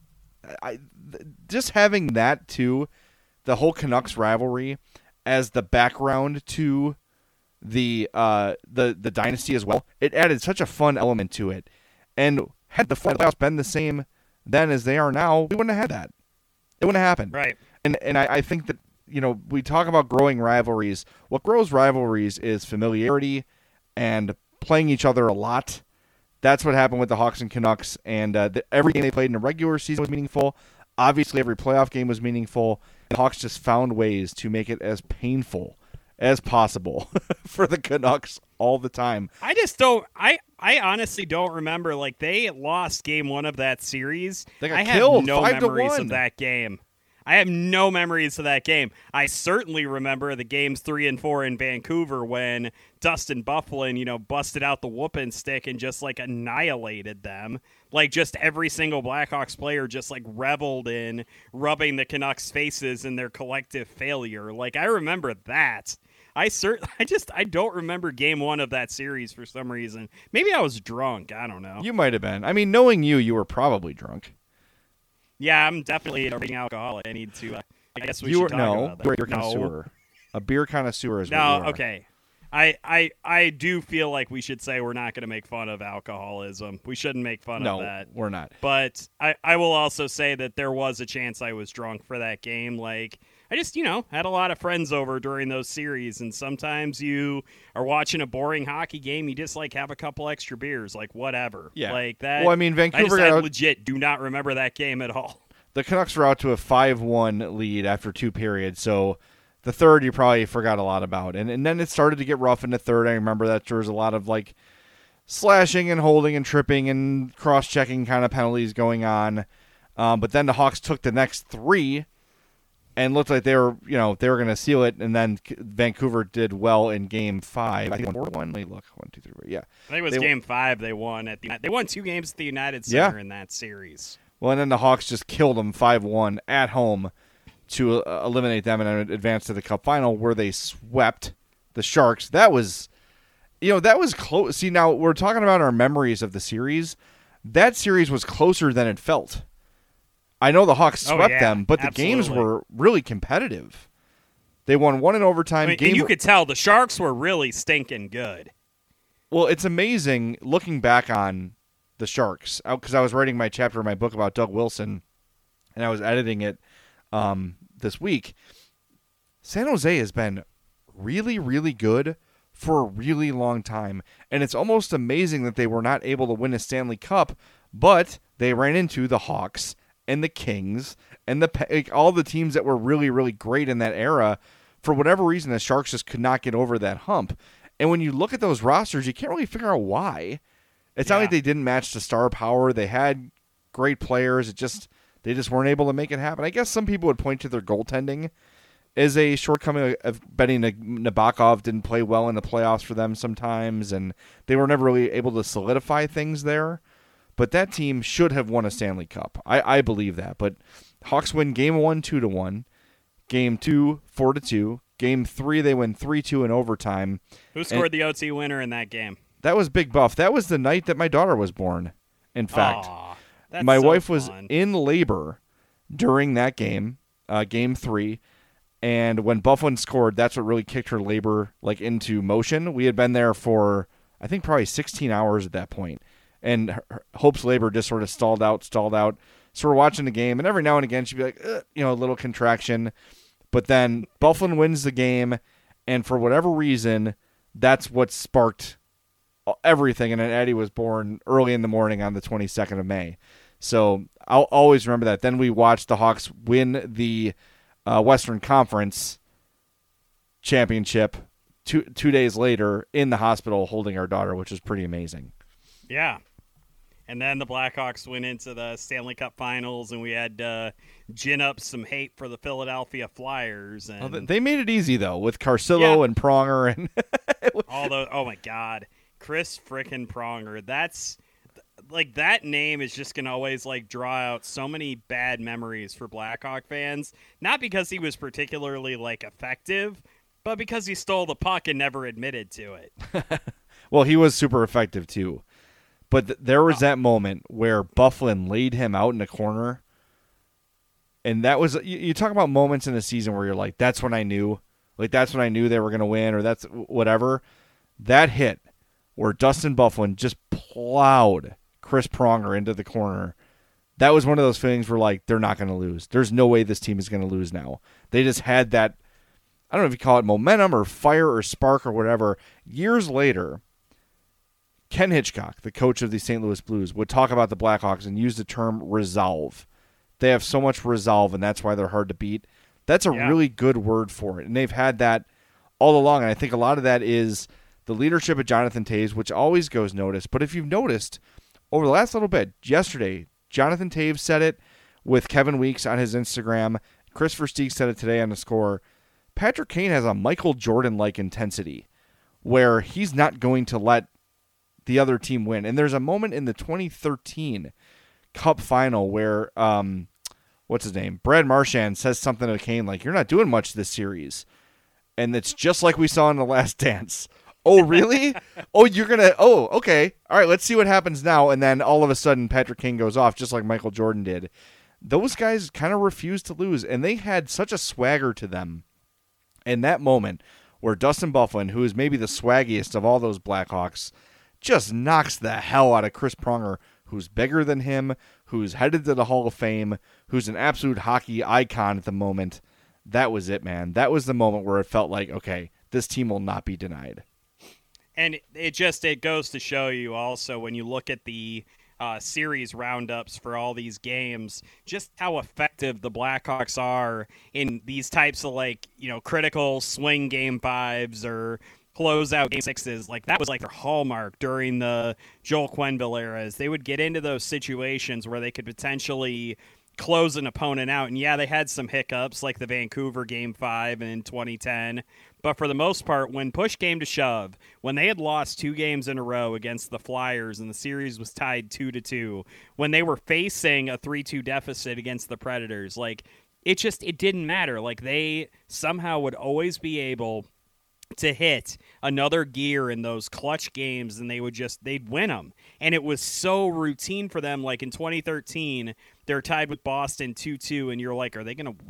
just having that, too, the whole Canucks rivalry as the background to the dynasty as well, it added such a fun element to it. And had the playoffs been the same then as they are now, we wouldn't have had that. It wouldn't have happened. Right. And I think that, we talk about growing rivalries. What grows rivalries is familiarity and playing each other a lot. That's what happened with the Hawks and Canucks. And every game they played in the regular season was meaningful. Obviously, every playoff game was meaningful. The Hawks just found ways to make it as painful as possible for the Canucks all the time. I just don't. I honestly don't remember. Like, they lost Game 1 of that series. They got I killed, have no 5-1. memories of that game. I have no memories of that game. I certainly remember the games 3 and 4 in Vancouver when Dustin Byfuglien, busted out the whooping stick and just like annihilated them. Like just every single Blackhawks player just like reveled in rubbing the Canucks' faces in their collective failure. Like I remember that. I don't remember game 1 of that series for some reason. Maybe I was drunk. I don't know. You might have been. I mean, knowing you were probably drunk. Yeah, I'm definitely a being alcoholic. I need to. I guess we should talk about that. You're a beer connoisseur. A beer connoisseur is what you are. Okay. I do feel like we should say we're not going to make fun of alcoholism. We shouldn't make fun of that. No, we're not. But I will also say that there was a chance I was drunk for that game. Like, I just, had a lot of friends over during those series, and sometimes you are watching a boring hockey game, you just, like, have a couple extra beers, like, whatever. Yeah. Like that. Well, I mean, Vancouver I legit do not remember that game at all. The Canucks were out to a 5-1 lead after 2 periods, so the third you probably forgot a lot about. And then it started to get rough in the third. I remember that there was a lot of, like, slashing and holding and tripping and cross-checking kind of penalties going on. But then the Hawks took the next 3 and looked like they were going to seal it, and then Vancouver did well in Game 5. I think 4-1. Let me look. 1, 2, 3. Yeah, I think it was Game 5 they won They won 2 games at the United Center in that series. Well, and then the Hawks just killed them 5-1 at home to eliminate them and advance to the Cup final, where they swept the Sharks. That was close. See, now we're talking about our memories of the series. That series was closer than it felt. I know the Hawks swept them, but the games were really competitive. They won 1 in overtime. And you could tell the Sharks were really stinking good. Well, it's amazing looking back on the Sharks, because I was writing my chapter in my book about Doug Wilson, and I was editing it this week. San Jose has been really, really good for a really long time, and it's almost amazing that they were not able to win a Stanley Cup, but they ran into the Hawks and the Kings and all the teams that were really, really great in that era. For whatever reason, the Sharks just could not get over that hump. And when you look at those rosters, you can't really figure out why. It's not like they didn't match the star power. They had great players. They just weren't able to make it happen. I guess some people would point to their goaltending as a shortcoming of betting Nabokov didn't play well in the playoffs for them sometimes, and they were never really able to solidify things there. But that team should have won a Stanley Cup. I believe that. But Hawks win Game 1 2-1, Game 2 4-2, Game 3 they win 3-2 in overtime. Who scored the OT winner in that game? That was Big Buff. That was the night that my daughter was born. In fact, that's my so wife was fun. in labor during that game, Game 3. And when Byfuglien scored, that's what really kicked her labor into motion. We had been there for, I think, probably 16 hours at that point. And Hope's labor just sort of stalled out. So we're watching the game, and every now and again she'd be like, a little contraction. But then Byfuglien wins the game, and for whatever reason, that's what sparked everything. And then Eddie was born early in the morning on the 22nd of May. So I'll always remember that. Then we watched the Hawks win the Western Conference championship 2 days later in the hospital holding our daughter, which was pretty amazing. Yeah. And then the Blackhawks went into the Stanley Cup Finals, and we had to gin up some hate for the Philadelphia Flyers. And they made it easy, though, with Carcillo and Pronger. And oh, my God. Chris frickin' Pronger. That's that name is just going to always draw out so many bad memories for Blackhawk fans. Not because he was particularly effective, but because he stole the puck and never admitted to it. Well, he was super effective, too. But there was that moment where Byfuglien laid him out in the corner. And that was, you talk about moments in the season where you're like, that's when I knew. That's when I knew they were going to win, or that's whatever. That hit where Dustin Byfuglien just plowed Chris Pronger into the corner. That was one of those feelings where, they're not going to lose. There's no way this team is going to lose now. They just had that, I don't know if you call it momentum or fire or spark or whatever. Years later, Ken Hitchcock, the coach of the St. Louis Blues, would talk about the Blackhawks and use the term resolve. They have so much resolve, and that's why they're hard to beat. That's a really good word for it, and they've had that all along, and I think a lot of that is the leadership of Jonathan Toews, which always goes noticed. But if you've noticed, over the last little bit, yesterday, Jonathan Toews said it with Kevin Weeks on his Instagram. Chris Versteeg said it today on The Score. Patrick Kane has a Michael Jordan-like intensity where he's not going to let the other team win. And there's a moment in the 2013 Cup final where, what's his name? Brad Marchand says something to Kane like, "You're not doing much this series." And it's just like we saw in The Last Dance. Oh, really? Okay. All right, let's see what happens now. And then all of a sudden, Patrick Kane goes off just like Michael Jordan did. Those guys kind of refused to lose, and they had such a swagger to them in that moment where Dustin Byfuglien, who is maybe the swaggiest of all those Blackhawks, just knocks the hell out of Chris Pronger, who's bigger than him, who's headed to the Hall of Fame, who's an absolute hockey icon at the moment. That was it, man. That was the moment where it felt like, okay, this team will not be denied. And it goes to show you also when you look at the series roundups for all these games, just how effective the Blackhawks are in these types of critical swing game 5s or closeout game 6s. Like that was like their hallmark during the Joel Quenneville eras. They would get into those situations where they could potentially close an opponent out. And yeah, they had some hiccups like the Vancouver Game 5 in 2010. But for the most part, when push came to shove, when they had lost 2 games in a row against the Flyers and the series was tied 2-2, when they were facing a 3-2 deficit against the Predators, it didn't matter. Like they somehow would always be able to hit another gear in those clutch games, and they'd win them. And it was so routine for them. Like in 2013, they're tied with Boston 2-2, and you're like, are they going to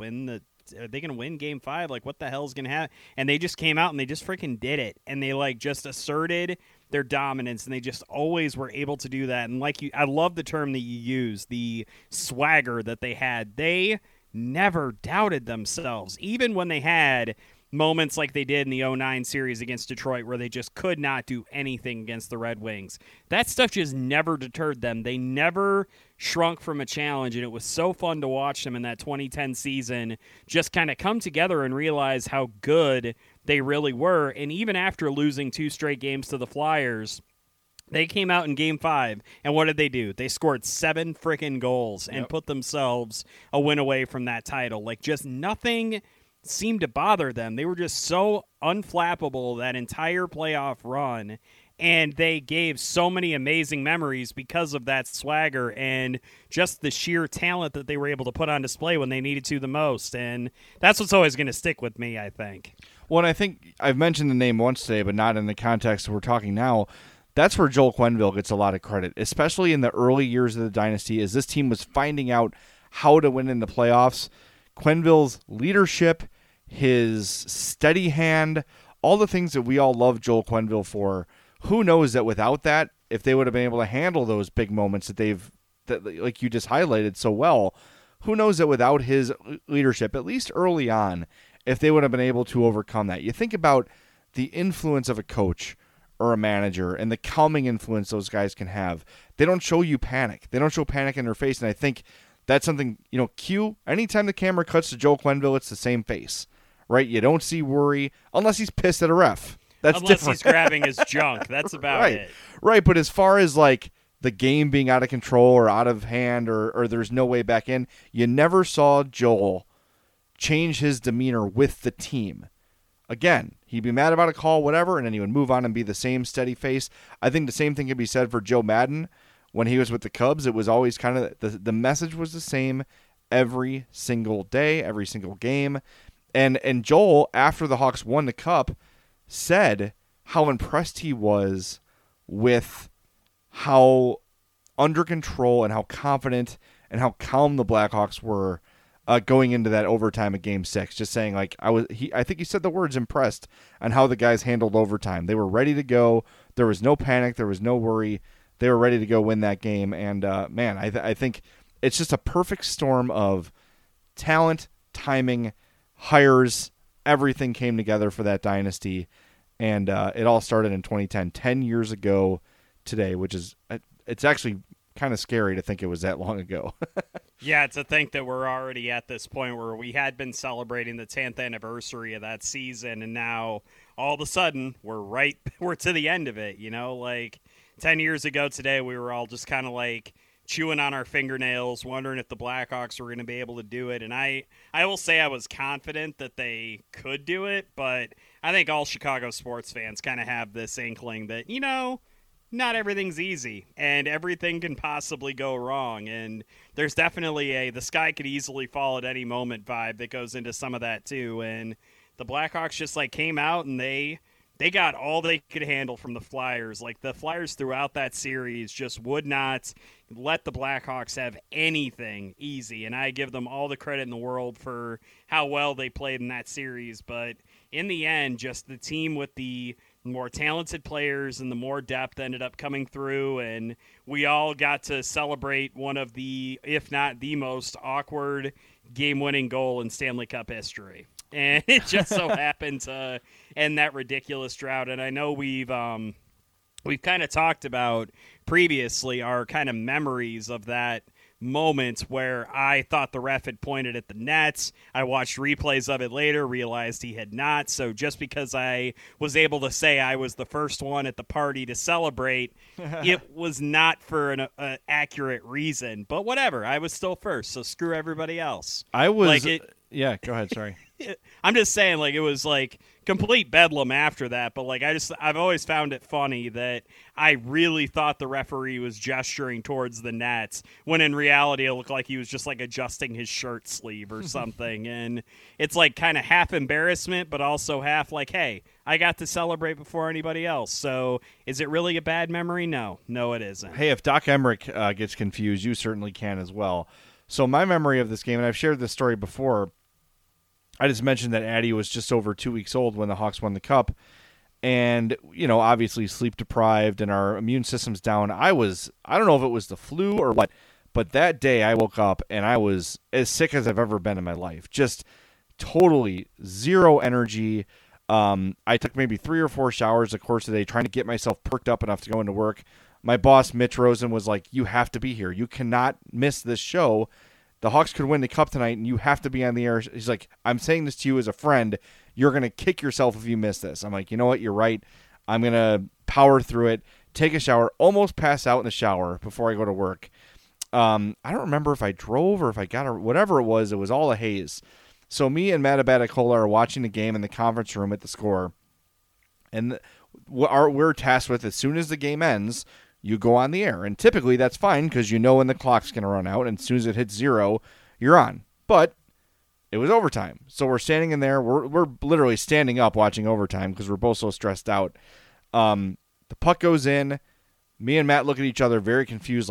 win Game 5? Like, what the hell is going to happen? And they just came out and they just freaking did it. And they just asserted their dominance, and they just always were able to do that. And I love the term that you use, the swagger that they had. They never doubted themselves, even when they had moments like they did in the 2009 series against Detroit where they just could not do anything against the Red Wings. That stuff just never deterred them. They never shrunk from a challenge, and it was so fun to watch them in that 2010 season just kind of come together and realize how good they really were. And even after losing 2 straight games to the Flyers, they came out in Game 5, and what did they do? They scored 7 freaking goals and put themselves a win away from that title. Like, just nothing seemed to bother them. They were just so unflappable that entire playoff run, and they gave so many amazing memories because of that swagger and just the sheer talent that they were able to put on display when they needed to the most. And that's what's always going to stick with me, I think. Well, and I think I've mentioned the name once today, but not in the context we're talking now. That's where Joel Quenneville gets a lot of credit, especially in the early years of the dynasty, as this team was finding out how to win in the playoffs. Quenneville's leadership, his steady hand, all the things that we all love Joel Quenneville for. Who knows that without that, if they would have been able to handle those big moments that like you just highlighted so well, who knows that without his leadership, at least early on, if they would have been able to overcome that. You think about the influence of a coach or a manager and the calming influence those guys can have. They don't show you panic. They don't show panic in their face, and I think that's something, Q, anytime the camera cuts to Joel Quenneville, it's the same face. Right? You don't see worry unless he's pissed at a ref. That's unless different. He's grabbing his junk. That's about it. Right, but as far as the game being out of control or out of hand or there's no way back in, you never saw Joel change his demeanor with the team. Again, he'd be mad about a call, whatever, and then he would move on and be the same steady face. I think the same thing could be said for Joe Madden. When he was with the Cubs, it was always kind of the message was the same every single day, every single game. And Joel, after the Hawks won the Cup, said how impressed he was with how under control and how confident and how calm the Blackhawks were going into that overtime of Game 6. Just saying, I think he said the words impressed on how the guys handled overtime. They were ready to go. There was no panic. There was no worry. They were ready to go win that game. And, I think it's just a perfect storm of talent, timing, hires, everything came together for that dynasty, and it all started in 2010, 10 years ago today, which is, it's actually kind of scary to think it was that long ago. Yeah, to think that we're already at this point where we had been celebrating the 10th anniversary of that season, and now all of a sudden we're to the end of it, 10 years ago today we were all just kind of chewing on our fingernails, wondering if the Blackhawks were going to be able to do it. And I will say I was confident that they could do it, but I think all Chicago sports fans kind of have this inkling that, not everything's easy and everything can possibly go wrong. And there's definitely the sky could easily fall at any moment vibe that goes into some of that too. And the Blackhawks just came out and they got all they could handle from the Flyers. The Flyers throughout that series just would not let the Blackhawks have anything easy. And I give them all the credit in the world for how well they played in that series. But in the end, just the team with the more talented players and the more depth ended up coming through. And we all got to celebrate one of the, if not the most awkward game-winning goal in Stanley Cup history. And it just so happened to end that ridiculous drought. And I know we've kind of talked about previously our kind of memories of that moment where I thought the ref had pointed at the nets. I watched replays of it later, realized he had not. So just because I was able to say I was the first one at the party to celebrate, it was not for an accurate reason. But whatever, I was still first, so screw everybody else. I was... Yeah, go ahead, sorry. I'm just saying, it was complete bedlam after that, but I've always found it funny that I really thought the referee was gesturing towards the nets when in reality it looked like he was just adjusting his shirt sleeve or something. And it's kind of half embarrassment, but also half hey, I got to celebrate before anybody else. So is it really a bad memory? No, it isn't. Hey, if Doc Emmerich gets confused, you certainly can as well. So my memory of this game, and I've shared this story before, I just mentioned that Addie was just over 2 weeks old when the Hawks won the Cup. And, obviously sleep deprived and our immune system's down. I don't know if it was the flu or what, but that day I woke up and I was as sick as I've ever been in my life. Just totally zero energy. I took maybe 3 or 4 showers the course of the day trying to get myself perked up enough to go into work. My boss, Mitch Rosen, was like, you have to be here. You cannot miss this show. The Hawks could win the Cup tonight, and you have to be on the air. He's like, I'm saying this to you as a friend. You're going to kick yourself if you miss this. I'm like, you know what? You're right. I'm going to power through it, take a shower, almost pass out in the shower before I go to work. I don't remember if I drove or if I got whatever it was all a haze. So me and Matt Abatacola are watching the game in the conference room at the Score. And we're tasked with, as soon as the game ends, you go on the air. And typically that's fine because when the clock's going to run out. And as soon as it hits 0, you're on. But it was overtime. So we're standing in there. We're literally standing up watching overtime because we're both so stressed out. The puck goes in. Me and Matt look at each other very confused.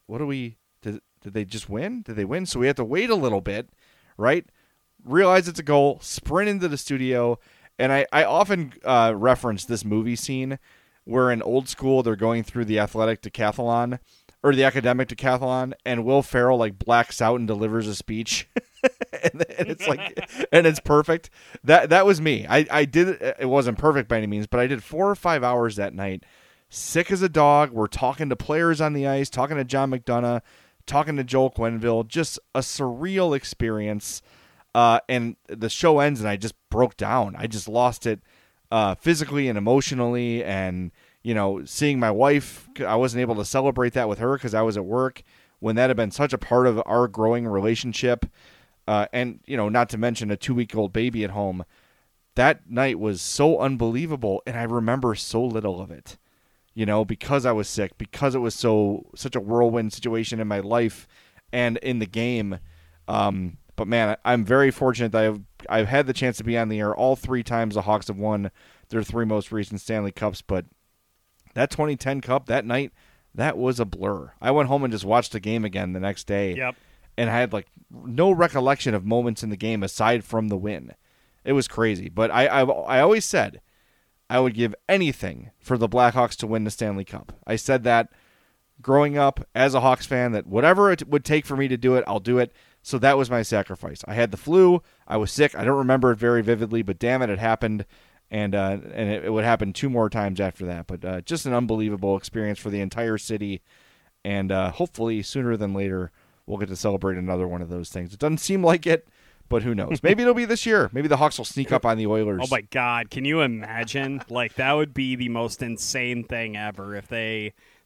Did they just win? Did they win? So we have to wait a little bit, right? Realize it's a goal. Sprint into the studio. And I often reference this movie scene where in Old School they're going through the athletic decathlon or the academic decathlon, and Will Ferrell blacks out and delivers a speech, and it's and it's perfect. That was me. I did it. It wasn't perfect by any means, but I did 4 or 5 hours that night, sick as a dog. We're talking to players on the ice, talking to John McDonough, talking to Joel Quenneville. Just a surreal experience. And the show ends, and I just broke down. I just lost it. Physically and emotionally, and seeing my wife, I wasn't able to celebrate that with her because I was at work when that had been such a part of our growing relationship, and not to mention a 2-week-old baby at home. That night was so unbelievable, and I remember so little of it, because I was sick, because it was such a whirlwind situation in my life and in the game. But man, I'm very fortunate that I've had the chance to be on the air all 3 times the Hawks have won their 3 most recent Stanley Cups. But that 2010 Cup, that night, that was a blur. I went home and just watched the game again the next day. Yep. And I had no recollection of moments in the game aside from the win. It was crazy. But I always said I would give anything for the Blackhawks to win the Stanley Cup. I said that growing up as a Hawks fan, that whatever it would take for me to do it, I'll do it. So that was my sacrifice. I had the flu. I was sick. I don't remember it very vividly, but damn it, it happened. And it would happen 2 more times after that. But just an unbelievable experience for the entire city. And hopefully sooner than later, we'll get to celebrate another one of those things. It doesn't seem like it, but who knows? Maybe it'll be this year. Maybe the Hawks will sneak up on the Oilers. Oh, my God. Can you imagine? That would be the most insane thing ever if they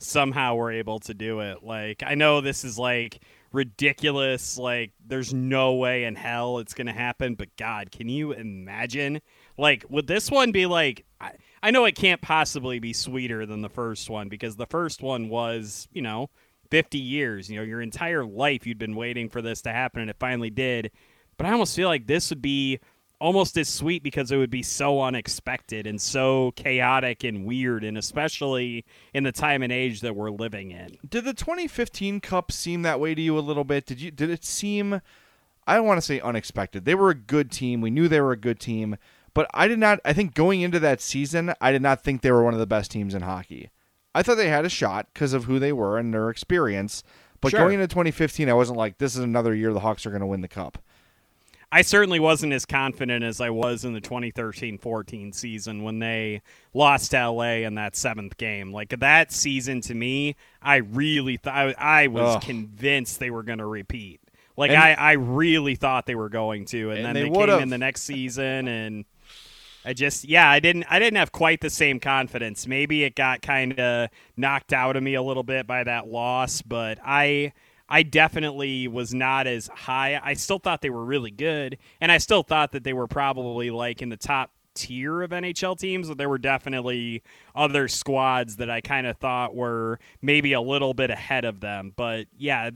somehow were able to do it. Like, I know this is like ridiculous, like there's no way in hell it's gonna happen, but God, can you imagine? Like, would this one be like, I know it can't possibly be sweeter than the first one, because the first one was, 50 years, your entire life you'd been waiting for this to happen, and it finally did. But I almost feel like this would be almost as sweet because it would be so unexpected and so chaotic and weird, and especially in the time and age that we're living in. Did the 2015 Cup seem that way to you a little bit? Did it seem, I don't want to say unexpected. They were a good team. We knew they were a good team. But I think going into that season, I did not think they were one of the best teams in hockey. I thought they had a shot because of who they were and their experience. But Sure. going into 2015, I wasn't like, this is another year the Hawks are going to win the Cup. I certainly wasn't as confident as I was in the 2013-14 season when they lost to LA in that 7th game. Like, that season, to me, I really thought I was convinced they were going to repeat. Like, I really thought they were going to, and then they came in the next season, and I didn't have quite the same confidence. Maybe it got kind of knocked out of me a little bit by that loss, but I definitely was not as high. I still thought they were really good, and I still thought that they were probably like in the top tier of NHL teams, but there were definitely other squads that I kind of thought were maybe a little bit ahead of them. But yeah,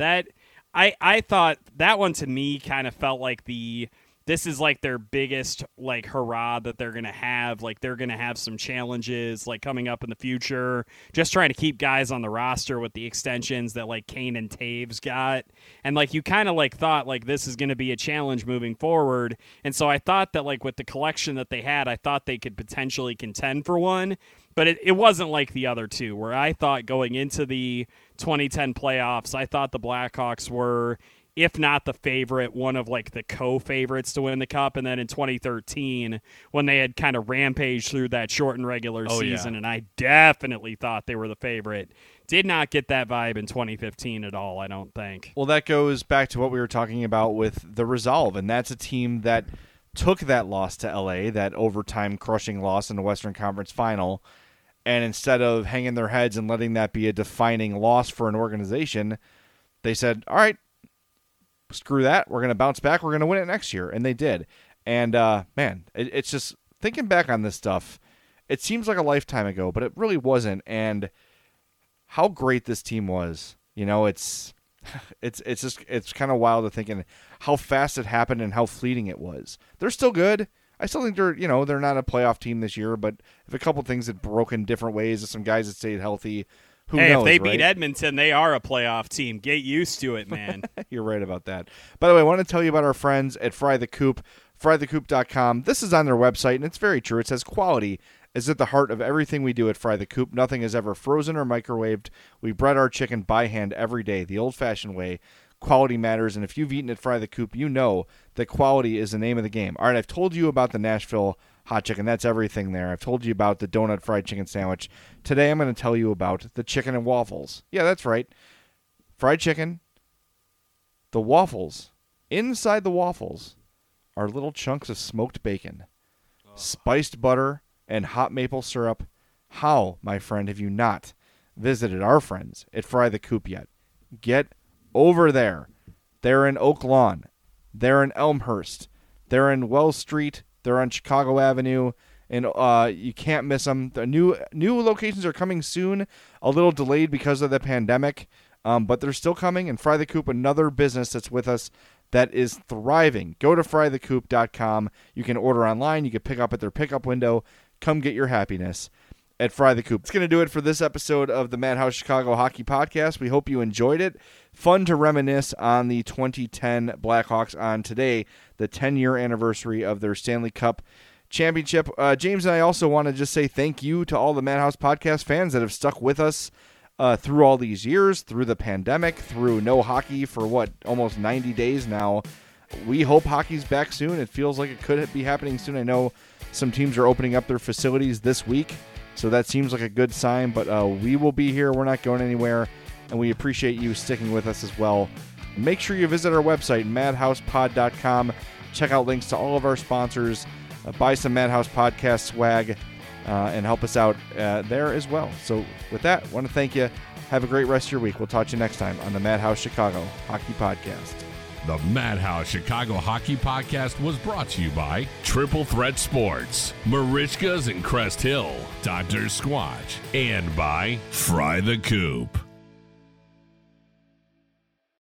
I thought that one to me kind of felt like this is like their biggest like hurrah that they're going to have. Like, they're going to have some challenges like coming up in the future, just trying to keep guys on the roster with the extensions that like Kane and Taves got. And like, you kind of like thought like this is going to be a challenge moving forward. And so I thought that like with the collection that they had, I thought they could potentially contend for one, but it wasn't like the other two, where I thought going into the 2010 playoffs, I thought the Blackhawks were, if not the favorite, one of like the co-favorites to win the Cup. And then in 2013, when they had kind of rampaged through that shortened regular season, and I definitely thought they were the favorite. Did not get that vibe in 2015 at all, I don't think. Well, that goes back to what we were talking about with the Resolve, and that's a team that took that loss to LA, that overtime crushing loss in the Western Conference Final, and instead of hanging their heads and letting that be a defining loss for an organization, they said, all right, screw that. We're going to bounce back. We're going to win it next year. And they did. And, man, it's just thinking back on this stuff, it seems like a lifetime ago, but it really wasn't. And how great this team was. It's kind of wild to think how fast it happened and how fleeting it was. They're still good. I still think they're not a playoff team this year, but if a couple things had broken different ways, if some guys had stayed healthy, who knows, if they right? beat Edmonton, they are a playoff team. Get used to it, man. You're right about that. By the way, I want to tell you about our friends at Fry the Coop, frythecoop.com. This is on their website, and it's very true. It says quality is at the heart of everything we do at Fry the Coop. Nothing is ever frozen or microwaved. We bread our chicken by hand every day, the old-fashioned way. Quality matters, and if you've eaten at Fry the Coop, you know that quality is the name of the game. All right, I've told you about the Nashville hot chicken. That's everything there. I've told you about the donut fried chicken sandwich. Today I'm going to tell you about the chicken and waffles. Yeah, that's right. Fried chicken, the waffles. Inside the waffles are little chunks of smoked bacon, spiced butter, and hot maple syrup. How, my friend, have you not visited our friends at Fry the Coop yet? Get over there. They're in Oak Lawn. They're in Elmhurst. They're in Wells Street. They're on Chicago Avenue, and you can't miss them. The new locations are coming soon, a little delayed because of the pandemic, but they're still coming. And Fry the Coop, another business that's with us that is thriving. Go to frythecoop.com. You can order online. You can pick up at their pickup window. Come get your happiness at Fry the Coop. It's going to do it for this episode of the Madhouse Chicago Hockey Podcast. We hope you enjoyed it. Fun to reminisce on the 2010 Blackhawks on today, the 10-year anniversary of their Stanley Cup championship. James and I also want to just say thank you to all the Madhouse Podcast fans that have stuck with us through all these years, through the pandemic, through no hockey for, almost 90 days now. We hope hockey's back soon. It feels like it could be happening soon. I know some teams are opening up their facilities this week, so that seems like a good sign, but we will be here. We're not going anywhere, and we appreciate you sticking with us as well. Make sure you visit our website, madhousepod.com. Check out links to all of our sponsors. Buy some Madhouse Podcast swag. and help us out there as well. So with that, I want to thank you. Have a great rest of your week. We'll talk to you next time on the Madhouse Chicago Hockey Podcast. The Madhouse Chicago Hockey Podcast was brought to you by Triple Threat Sports, Marishkas and Crest Hill, Dr. Squatch, and by Fry the Coop.